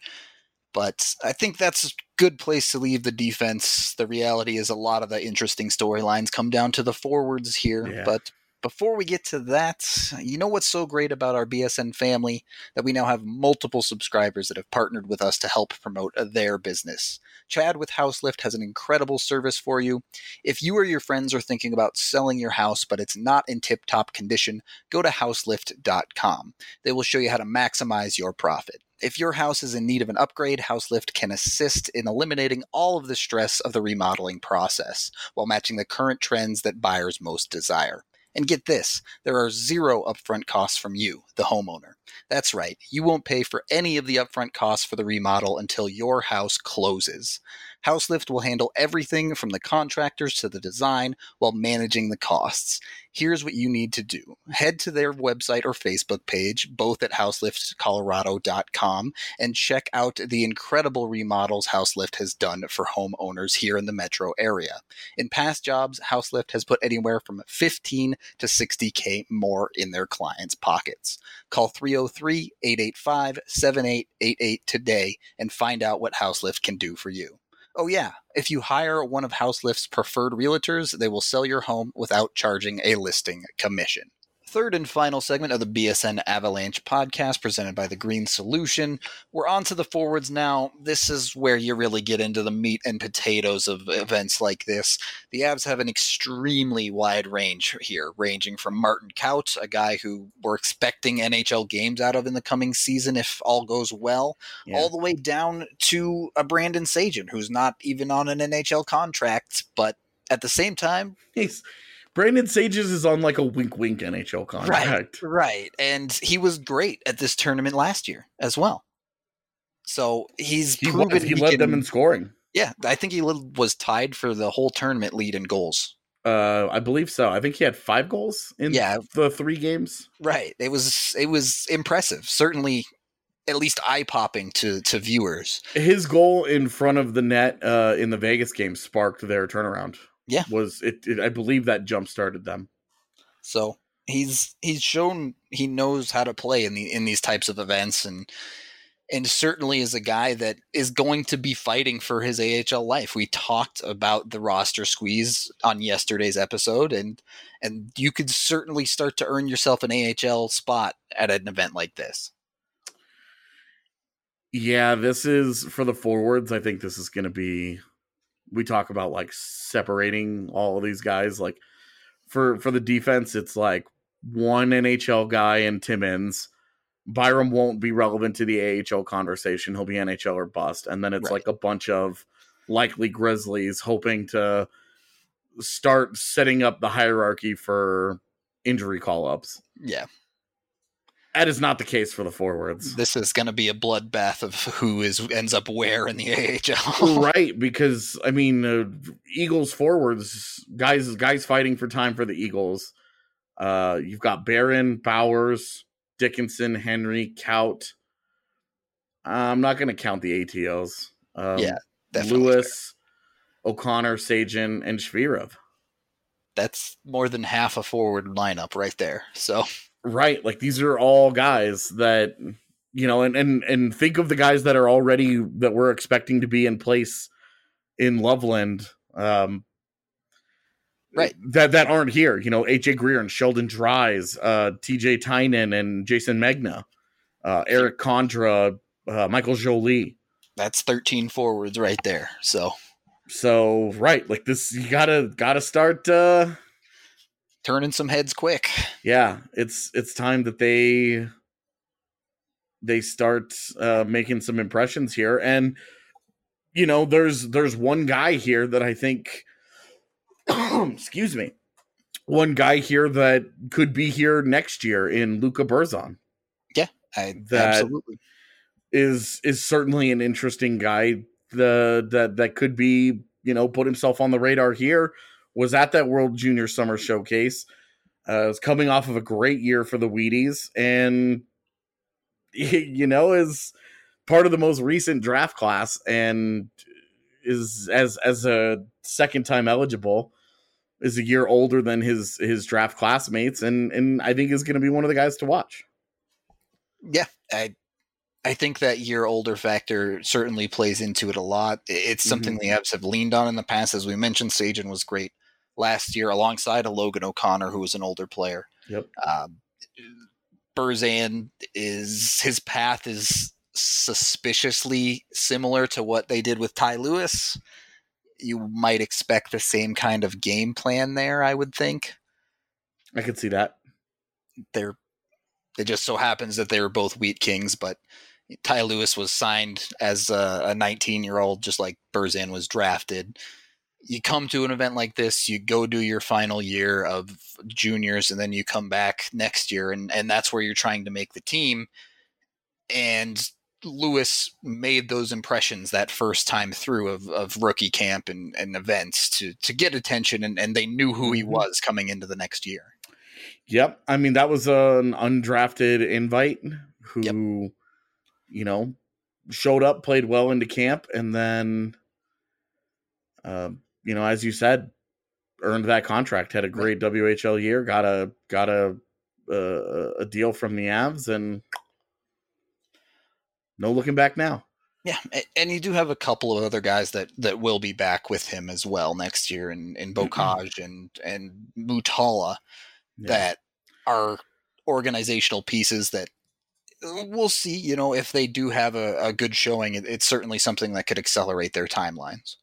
But I think that's a good place to leave the defense. The reality is a lot of the interesting storylines come down to the forwards here. Yeah. But before we get to that, you know what's so great about our B S N family? That we now have multiple subscribers that have partnered with us to help promote their business. Chad with Houselift has an incredible service for you. If you or your friends are thinking about selling your house, but it's not in tip-top condition, go to houselift dot com. They will show you how to maximize your profit. If your house is in need of an upgrade, Houselift can assist in eliminating all of the stress of the remodeling process while matching the current trends that buyers most desire. And get this, there are zero upfront costs from you, the homeowner. That's right, you won't pay for any of the upfront costs for the remodel until your house closes. Houselift will handle everything from the contractors to the design while managing the costs. Here's what you need to do. Head to their website or Facebook page, both at houselift colorado dot com, and check out the incredible remodels Houselift has done for homeowners here in the metro area. In past jobs, Houselift has put anywhere from fifteen to sixty K more in their clients' pockets. Call three oh three, eight eight five, seven eight eight eight today and find out what Houselift can do for you. Oh yeah, if you hire one of Houselift's preferred realtors, they will sell your home without charging a listing commission. Third and final segment of the B S N Avalanche podcast presented by The Green Solution. We're on to the forwards now. This is where you really get into the meat and potatoes of events like this. The Avs have an extremely wide range here, ranging from Martin Kaut, a guy who we're expecting N H L games out of in the coming season if all goes well, Yeah. all the way down to a Brandon Sagen, who's not even on an N H L contract, but at the same time, He's Brandon Sages is on like a wink wink N H L contract. Right, right. And he was great at this tournament last year as well. So he's He, proven was, he led can, them in scoring. Yeah, I think he was tied for the whole tournament lead in goals. Uh, I believe so. I think he had five goals in Yeah. the three games. Right. It was it was impressive. Certainly at least eye-popping to, to viewers. His goal in front of the net uh, in the Vegas game sparked their turnaround. Yeah. Was it, it I believe that jump started them. So he's he's shown he knows how to play in the in these types of events, and and certainly is a guy that is going to be fighting for his A H L life. We talked about the roster squeeze on yesterday's episode, and and you could certainly start to earn yourself an A H L spot at an event like this. Yeah, this is for the forwards. I think this is going to be. We talk about like separating all of these guys. Like for for the defense, it's like one N H L guy and Timmins. Byram won't be relevant to the A H L conversation. He'll be N H L or bust. And then it's Right. like a bunch of likely Grizzlies hoping to start setting up the hierarchy for injury call-ups. Yeah. That is not the case for the forwards. This is going to be a bloodbath of who is ends up where in the A H L. Right, because I mean, uh, Eagles forwards, guys, guys fighting for time for the Eagles. Uh, you've got Barron, Bowers, Dickinson, Henry, Kaut. I'm not going to count the A T Os. Um, Yeah, definitely Lewis, O'Connor, Sagen, and Shvirov. That's more than half a forward lineup right there. So Right, like these are all guys that you know, and and and think of the guys that are already that we're expecting to be in place in Loveland. Um, Right. That that aren't here. You know, H J Greer and Sheldon Dries, uh, T J Tynan and Jason Megna, uh, Eric Condra, uh, Michael Jolie. that's thirteen forwards right there. So So right, like this, you gotta gotta start. Uh, turning some heads quick. yeah, it's it's time that they they start uh, making some impressions here, and you know, there's there's one guy here that I think. excuse me, one guy here that could be here next year in Luca Berzon. Yeah, I, That- absolutely. Is is certainly an interesting guy. The that that could be, you know, put himself on the radar here. Was at that World Junior Summer Showcase. Uh, is coming off of a great year for the Wheaties, and you know is part of the most recent draft class and is as as a second time eligible, is a year older than his his draft classmates, and and I think is going to be one of the guys to watch. Yeah, I I think that year older factor certainly plays into it a lot. It's something mm-hmm. the Avs have leaned on in the past. As we mentioned, Sagen was great last year alongside a Logan O'Connor, who was an older player. Yep. Um, Berzan is his path is suspiciously similar to what they did with Ty Lewis. You might expect the same kind of game plan there, I would think. I could see that. They're, it just so happens that they were both Wheat Kings, but Ty Lewis was signed as a nineteen-year-old, just like Berzan was drafted. You come to an event like this, you go do your final year of juniors, and then you come back next year, and, and that's where you're trying to make the team. And Lewis made those impressions that first time through of, of rookie camp and, and events to to get attention, and, and they knew who he was coming into the next year. Yep. I mean, that was an undrafted invite who, yep. you know, showed up, played well into camp, and then, uh, you know, as you said, earned that contract, had a great right. W H L year, got a got a a, a deal from the Avs, and no looking back now. Yeah, and you do have a couple of other guys that, that will be back with him as well next year, in, in Bocage and, and Mutala, yeah. that are organizational pieces that we'll see, you know, if they do have a, a good showing, it, it's certainly something that could accelerate their timelines.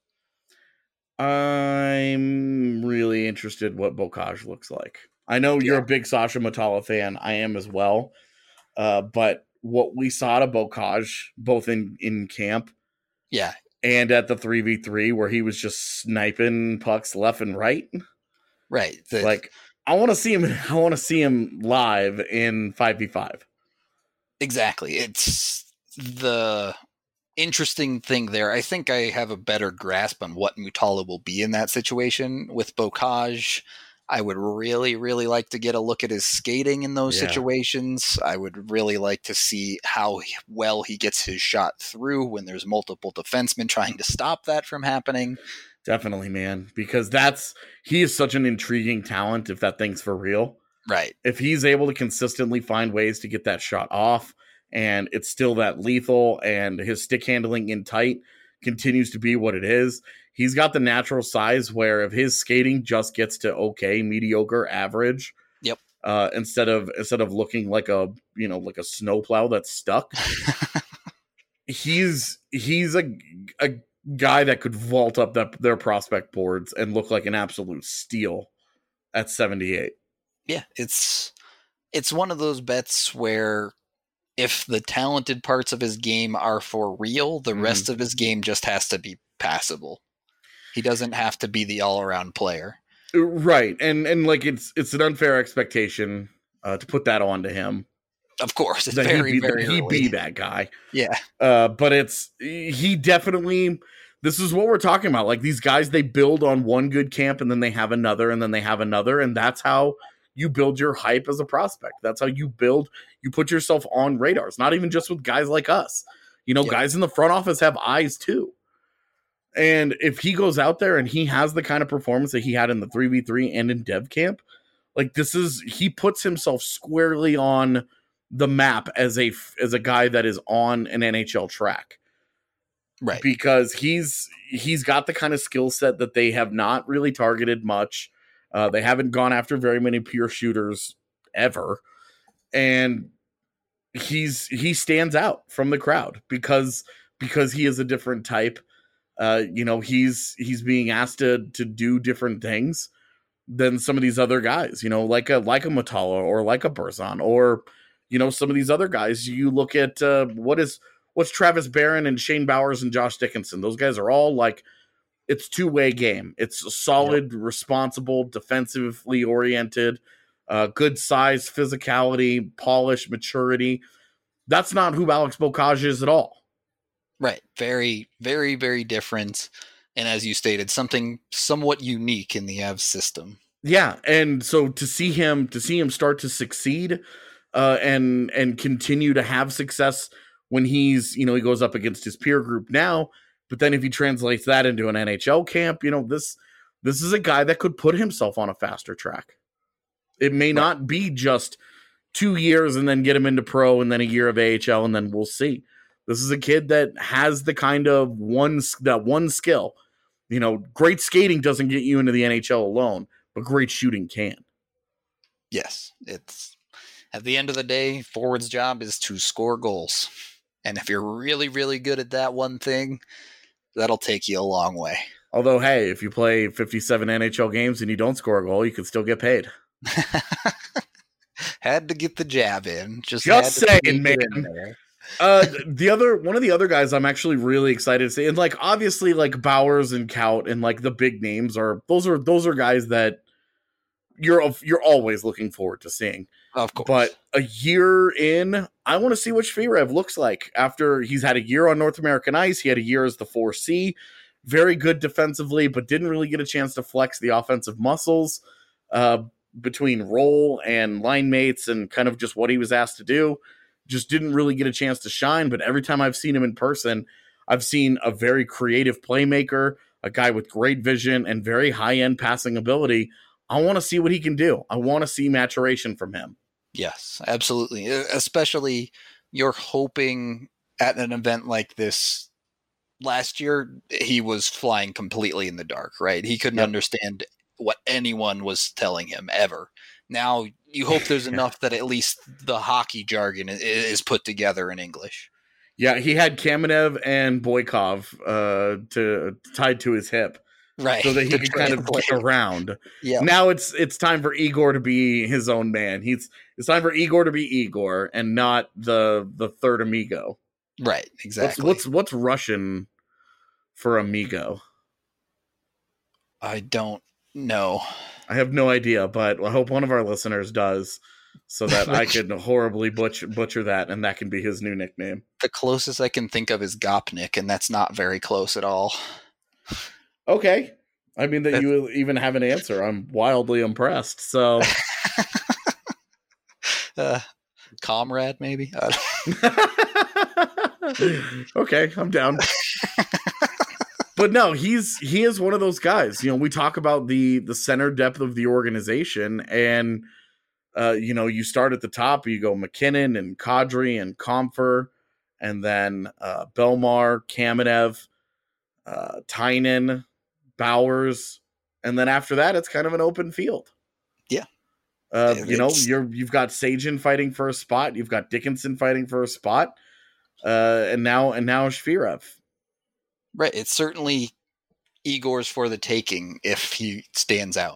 I'm really interested what Bocage looks like. I know you're yeah. a big Sasha Mutala fan. I am as well. Uh, but what we saw to Bocage, both in, in camp yeah, and at the three v three, where he was just sniping pucks left and right. Right. The, like, I want to see him. I want to see him live in five v five. Exactly. It's the interesting thing there. I think I have a better grasp on what Mutala will be in that situation. With Bocage, I would really, really like to get a look at his skating in those yeah. situations. I would really like to see how well he gets his shot through when there's multiple defensemen trying to stop that from happening. Definitely, man, because that's he is such an intriguing talent if that thing's for real. Right. If he's able to consistently find ways to get that shot off and it's still that lethal and his stick handling in tight continues to be what it is, he's got the natural size where if his skating just gets to okay, mediocre, average, yep. Uh, instead of instead of looking like a you know like a snowplow that's stuck, he's he's a a guy that could vault up the, their prospect boards and look like an absolute steal at seventy-eight. Yeah, it's it's one of those bets where if the talented parts of his game are for real, the mm-hmm. rest of his game just has to be passable. He doesn't have to be the all-around player. Right. And and like it's it's an unfair expectation uh, to put that onto him. Of course. It's that very, he be, very he early. be that guy. Yeah. Uh, but it's he definitely this is what we're talking about. Like these guys, they build on one good camp and then they have another and then they have another. And that's how you build your hype as a prospect. That's how you build, you put yourself on radars, not even just with guys like us. You know, yep. guys in the front office have eyes too. And if he goes out there and he has the kind of performance that he had in the three v three and in dev camp, like this is, he puts himself squarely on the map as a, as a guy that is on an N H L track. Right. Because he's, he's got the kind of skill set that they have not really targeted much. Uh, they haven't gone after very many pure shooters ever. And he's, he stands out from the crowd because, because he is a different type. Uh, you know, he's he's being asked to to do different things than some of these other guys, you know, like a like a Mutala or like a Berzan or, you know, some of these other guys. You look at uh, what is what's Travis Barron and Shane Bowers and Josh Dickinson. Those guys are all like, it's two-way game. It's a solid, yep. responsible, defensively oriented, uh, good size, physicality, polish, maturity. That's not who Alex Bocage is at all. Right. Very, very, very different. And as you stated, something somewhat unique in the Avs system. Yeah. And so to see him, to see him start to succeed uh, and, and continue to have success when he's, you know, he goes up against his peer group now. But then if he translates that into an N H L camp, you know, this this is a guy that could put himself on a faster track. It may right. not be just two years and then get him into pro and then a year of A H L and then we'll see. This is a kid that has the kind of one that one skill. You know, great skating doesn't get you into the N H L alone, but great shooting can. Yes, it's at the end of the day, forward's job is to score goals. And if you're really, really good at that one thing, that'll take you a long way. Although, hey, if you play fifty-seven N H L games and you don't score a goal, you can still get paid. Had to get the jab in. Just, Just saying, man. uh, the other one of the other guys I'm actually really excited to see, and like obviously like Bowers and Kaut and like the big names are those are those are guys that you're you're always looking forward to seeing. Of course. But a year in, I want to see what Shvirev looks like after he's had a year on North American ice. He had a year as the four C, very good defensively, but didn't really get a chance to flex the offensive muscles uh, between role and line mates and kind of just what he was asked to do. Just didn't really get a chance to shine. But every time I've seen him in person, I've seen a very creative playmaker, a guy with great vision and very high-end passing ability. I want to see what he can do. I want to see maturation from him. Yes, absolutely. Especially you're hoping at an event like this. Last year, he was flying completely in the dark, right? He couldn't yep. understand what anyone was telling him ever. Now you hope there's enough that at least the hockey jargon is put together in English. Yeah, he had Kamenev and Boykov uh, to tied to his hip. Right. So that he could kind of get around. Yeah. Now it's it's time for Igor to be his own man. He's it's time for Igor to be Igor and not the the third amigo. Right, exactly. What's what's, what's Russian for amigo? I don't know. I have no idea, but I hope one of our listeners does so that I can horribly butcher butcher that and that can be his new nickname. The closest I can think of is Gopnik, and that's not very close at all. Okay. I mean, that you even have an answer. I'm wildly impressed. So, uh, comrade, maybe? Okay, I'm down. But no, he's he is one of those guys. You know, we talk about the the center depth of the organization, and uh, you know, you start at the top. You go McKinnon and Kadri and Comfer, and then uh, Belmar, Kamenev, uh, Tynan, Bowers, and then after that, it's kind of an open field. Yeah, uh, you know, you're you've got Sajin fighting for a spot, you've got Dickinson fighting for a spot, uh, and now and now Shvirev. Right, it's certainly Igor's for the taking if he stands out.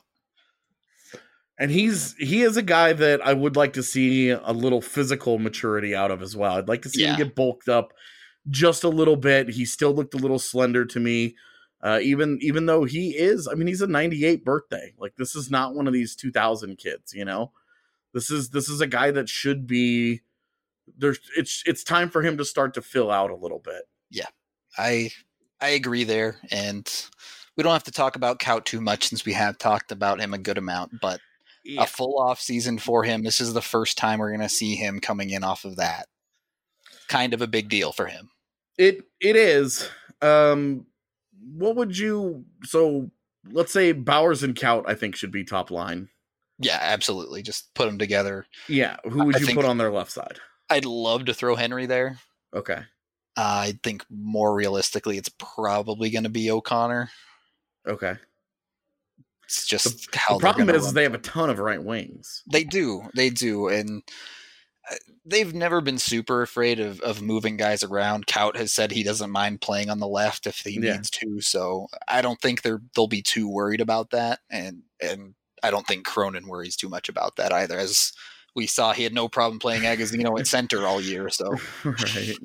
And he's he is a guy that I would like to see a little physical maturity out of as well. I'd like to see yeah. him get bulked up just a little bit. He still looked a little slender to me. Uh, even even though he is, I mean, he's a ninety-eight birthday. Like, this is not one of these two thousand kids, you know? This is this is a guy that should be there's it's it's time for him to start to fill out a little bit. Yeah. I I agree there, and we don't have to talk about Kaut too much since we have talked about him a good amount, but yeah. a full off season for him. This is the first time we're going to see him coming in off of that. Kind of a big deal for him. It it is. Um What would you, so let's say Bowers and Kaut, I think, should be top line. Yeah, absolutely. Just put them together. Yeah. Who would I you put on their left side? I'd love to throw Henry there. Okay. Uh, I think more realistically, it's probably going to be O'Connor. Okay. It's just the, how the problem is run. They have a ton of right wings. They do. They do. And they've never been super afraid of, of moving guys around. Kaut has said he doesn't mind playing on the left if he yeah. needs to. So I don't think they're they'll be too worried about that. And and I don't think Cronin worries too much about that either. As we saw, he had no problem playing Agazino at center all year. So right.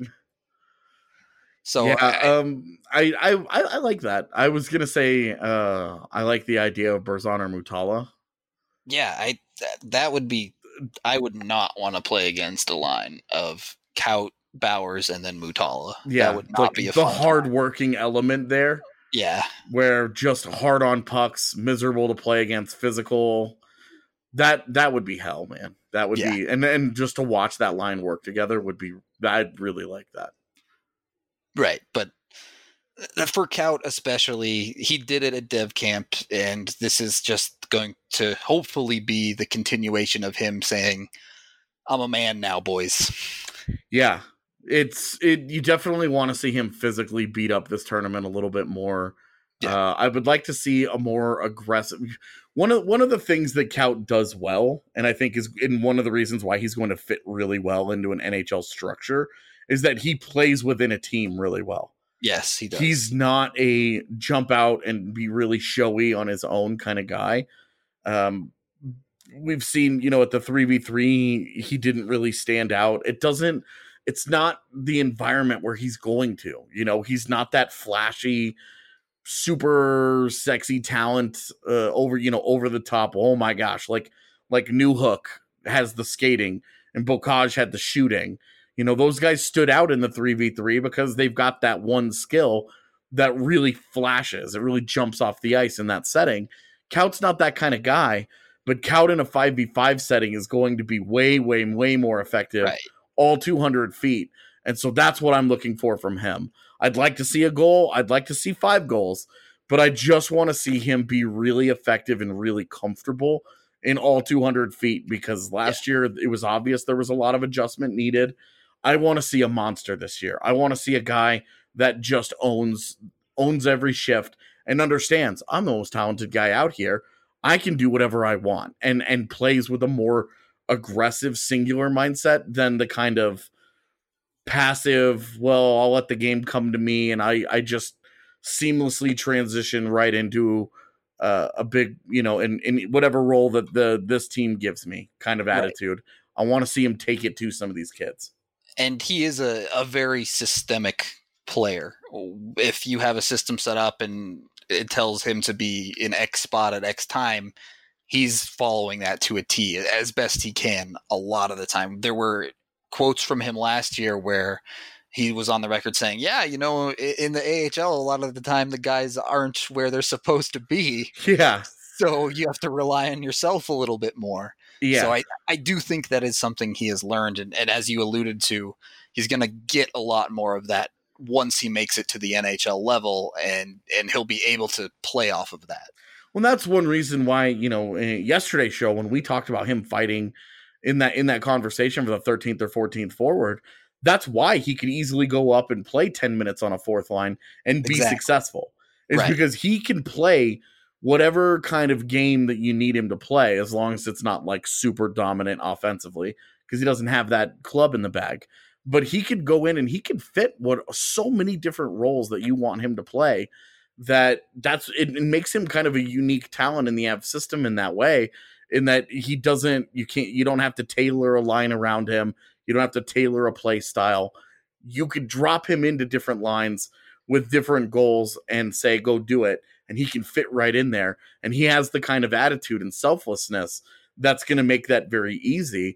So yeah, I, um, I, I I like that. I was gonna say uh, I like the idea of Berzon or Mutala. Yeah, I that, that would be. I would not want to play against a line of Kaut, Bowers, and then Mutala. Yeah, that would not like be a the fun hard-working element there. Yeah, where just hard on pucks, miserable to play against, physical. that that would be hell, man. That would Yeah. be, and and just to watch that line work together would be, I'd really like that. Right, but for Kaut especially, he did it at Dev Camp, and this is just going to hopefully be the continuation of him saying, I'm a man now, boys. Yeah, it's it. You definitely want to see him physically beat up this tournament a little bit more. Yeah. Uh, I would like to see a more aggressive. One of one of the things that Kaut does well, and I think is in one of the reasons why he's going to fit really well into an N H L structure, is that he plays within a team really well. Yes, he does. He's not a jump out and be really showy on his own kind of guy. Um, we've seen, you know, at the three v three, he didn't really stand out. It doesn't, it's not the environment where he's going to, you know, he's not that flashy, super sexy talent, uh, over, you know, over the top. Oh my gosh. Like, like New Hook has the skating and Bocage had the shooting. You know, those guys stood out in the three v three because they've got that one skill that really flashes. It really jumps off the ice in that setting. Kaut's not that kind of guy, but Kaut in a five v five setting is going to be way, way, way more effective, Right. all two hundred feet. And so that's what I'm looking for from him. I'd like to see a goal. I'd like to see five goals, but I just want to see him be really effective and really comfortable in all two hundred feet, because last yeah. year it was obvious there was a lot of adjustment needed. I want to see a monster this year. I want to see a guy that just owns owns every shift and understands I'm the most talented guy out here. I can do whatever I want, and and plays with a more aggressive, singular mindset than the kind of passive, well, I'll let the game come to me and I, I just seamlessly transition right into uh, a big, you know, in, in whatever role that the this team gives me kind of attitude. Right. I want to see him take it to some of these kids. And he is a, a very systemic player. If you have a system set up and it tells him to be in X spot at X time, he's following that to a T as best he can a lot of the time. There were quotes from him last year where he was on the record saying, yeah, you know, in the A H L, a lot of the time the guys aren't where they're supposed to be. Yeah. So you have to rely on yourself a little bit more. Yeah. So I, I do think that is something he has learned. And, and as you alluded to, he's going to get a lot more of that once he makes it to the N H L level, and, and he'll be able to play off of that. Well, that's one reason why, you know, yesterday's show, when we talked about him fighting in that, in that conversation for the thirteenth or fourteenth forward, that's why he could easily go up and play ten minutes on a fourth line and be exactly. successful. It's right. because he can play whatever kind of game that you need him to play, as long as it's not like super dominant offensively, because he doesn't have that club in the bag. But he could go in and he can fit what so many different roles that you want him to play. That that's it, it makes him kind of a unique talent in the Avs system in that way, in that he doesn't, you can't, you don't have to tailor a line around him. You don't have to tailor a play style. You could drop him into different lines with different goals and say, go do it. And he can fit right in there. And he has the kind of attitude and selflessness that's going to make that very easy.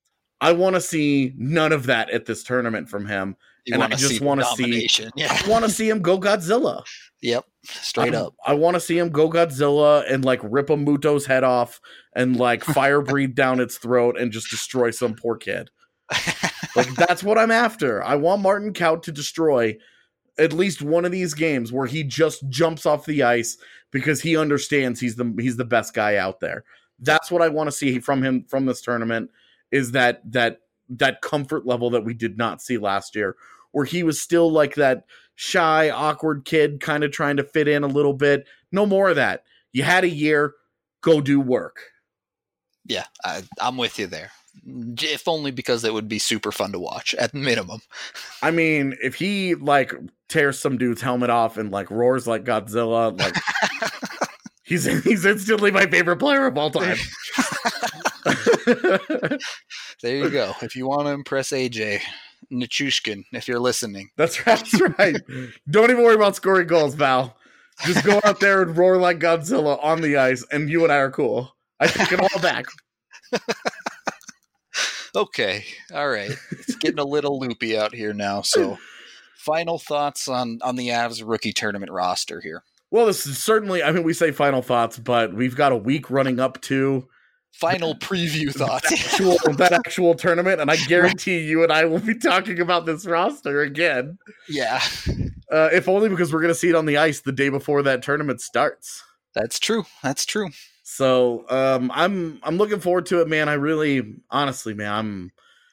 I want to see none of that at this tournament from him. You and I just want to see, yeah. I want to see him go Godzilla. Yep. Straight I, up. I want to see him go Godzilla and like rip a Muto's head off and like fire breathe down its throat and just destroy some poor kid. Like, that's what I'm after. I want Martin Kaut to destroy at least one of these games where he just jumps off the ice because he understands he's the he's the best guy out there. That's what I want to see from him from this tournament, is that that that comfort level that we did not see last year, where he was still like that shy, awkward kid kind of trying to fit in a little bit. No more of that. You had a year, go do work. Yeah, I, I'm with you there. If only because it would be super fun to watch at minimum. I mean, if he like tears some dude's helmet off and like roars like Godzilla, like he's he's instantly my favorite player of all time. There you go. If you want to impress A J Nichushkin, if you're listening. That's right. That's right. Don't even worry about scoring goals, Val. Just go out there and roar like Godzilla on the ice, and you and I are cool. I take it all back. Okay. All right. It's getting a little loopy out here now. So final thoughts on, on the Avs rookie tournament roster here. Well, this is certainly, I mean, we say final thoughts, but we've got a week running up to final preview thoughts. That actual, that actual tournament, and I guarantee you and I will be talking about this roster again. Yeah. Uh, if only because we're going to see it on the ice the day before that tournament starts. That's true. That's true. So um, I'm I'm looking forward to it, man. I really, honestly, man, I'm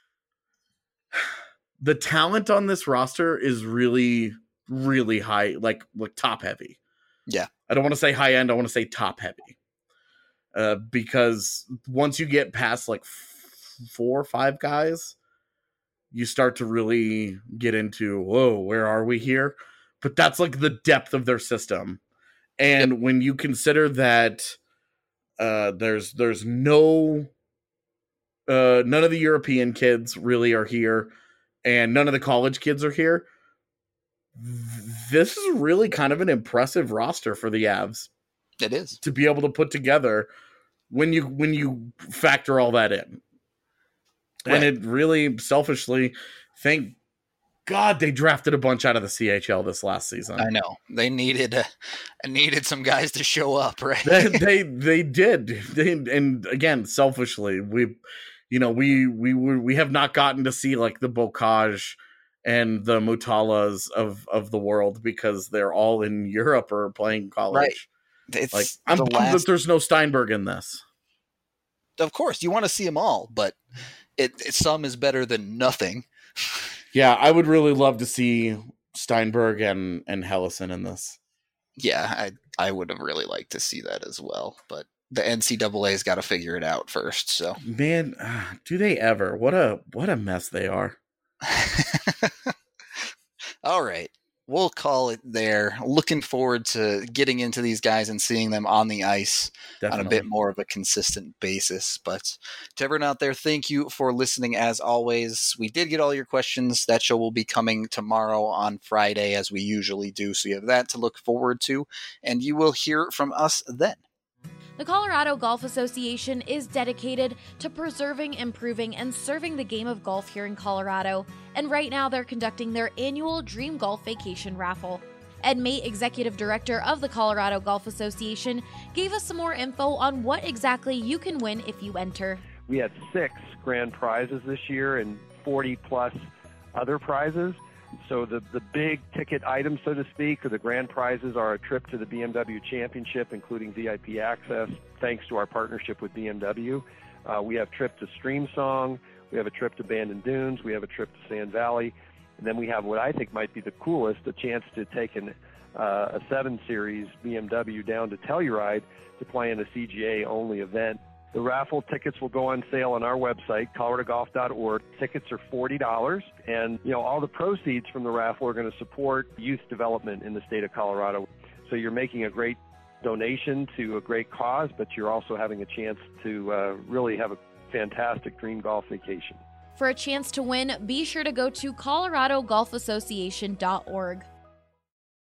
the talent on this roster is really, really high, like like top heavy. Yeah. I don't want to say high end. I want to say top heavy. Uh, because once you get past like f- four or five guys, you start to really get into, whoa, where are we here? But that's like the depth of their system. And yep. when you consider that uh, there's there's no uh, none of the European kids really are here, and none of the college kids are here, this is really kind of an impressive roster for the Avs. It is. To be able to put together when you when you factor all that in. Right. And it really, selfishly, thank God they drafted a bunch out of the C H L this last season. I know. They needed uh, needed some guys to show up, right? they, they they did. They, and again, selfishly, we you know, we we we have not gotten to see like the Bocage and the Mutalas of of the world because they're all in Europe or playing college. Right. It's like I'm bummed last... that there's no Steinberg in this. Of course, you want to see them all, but it, it some is better than nothing. Yeah, I would really love to see Steinberg and and Helleson in this. Yeah, I I would have really liked to see that as well, but the N C double A's got to figure it out first. So man, do they ever? What a what a mess they are. All right. We'll call it there. Looking forward to getting into these guys and seeing them on the ice Definitely. on a bit more of a consistent basis. But to everyone out there, thank you for listening as always. We did get all your questions. That show will be coming tomorrow on Friday as we usually do. So you have that to look forward to, and you will hear from us then. The Colorado Golf Association is dedicated to preserving, improving, and serving the game of golf here in Colorado, and right now they're conducting their annual Dream Golf Vacation Raffle. Ed Mate, Executive Director of the Colorado Golf Association, gave us some more info on what exactly you can win if you enter. We had six grand prizes this year and forty plus other prizes. So the, the big ticket items, so to speak, or the grand prizes are a trip to the B M W Championship, including V I P access, thanks to our partnership with B M W. Uh, we have a trip to Streamsong. We have a trip to Bandon Dunes. We have a trip to Sand Valley. And then we have what I think might be the coolest, a chance to take an, uh, a seven series B M W down to Telluride to play in a C G A-only event. The raffle tickets will go on sale on our website, colorado golf dot org. Tickets are forty dollars, and you know all the proceeds from the raffle are going to support youth development in the state of Colorado. So you're making a great donation to a great cause, but you're also having a chance to uh, really have a fantastic dream golf vacation. For a chance to win, be sure to go to colorado golf association dot org.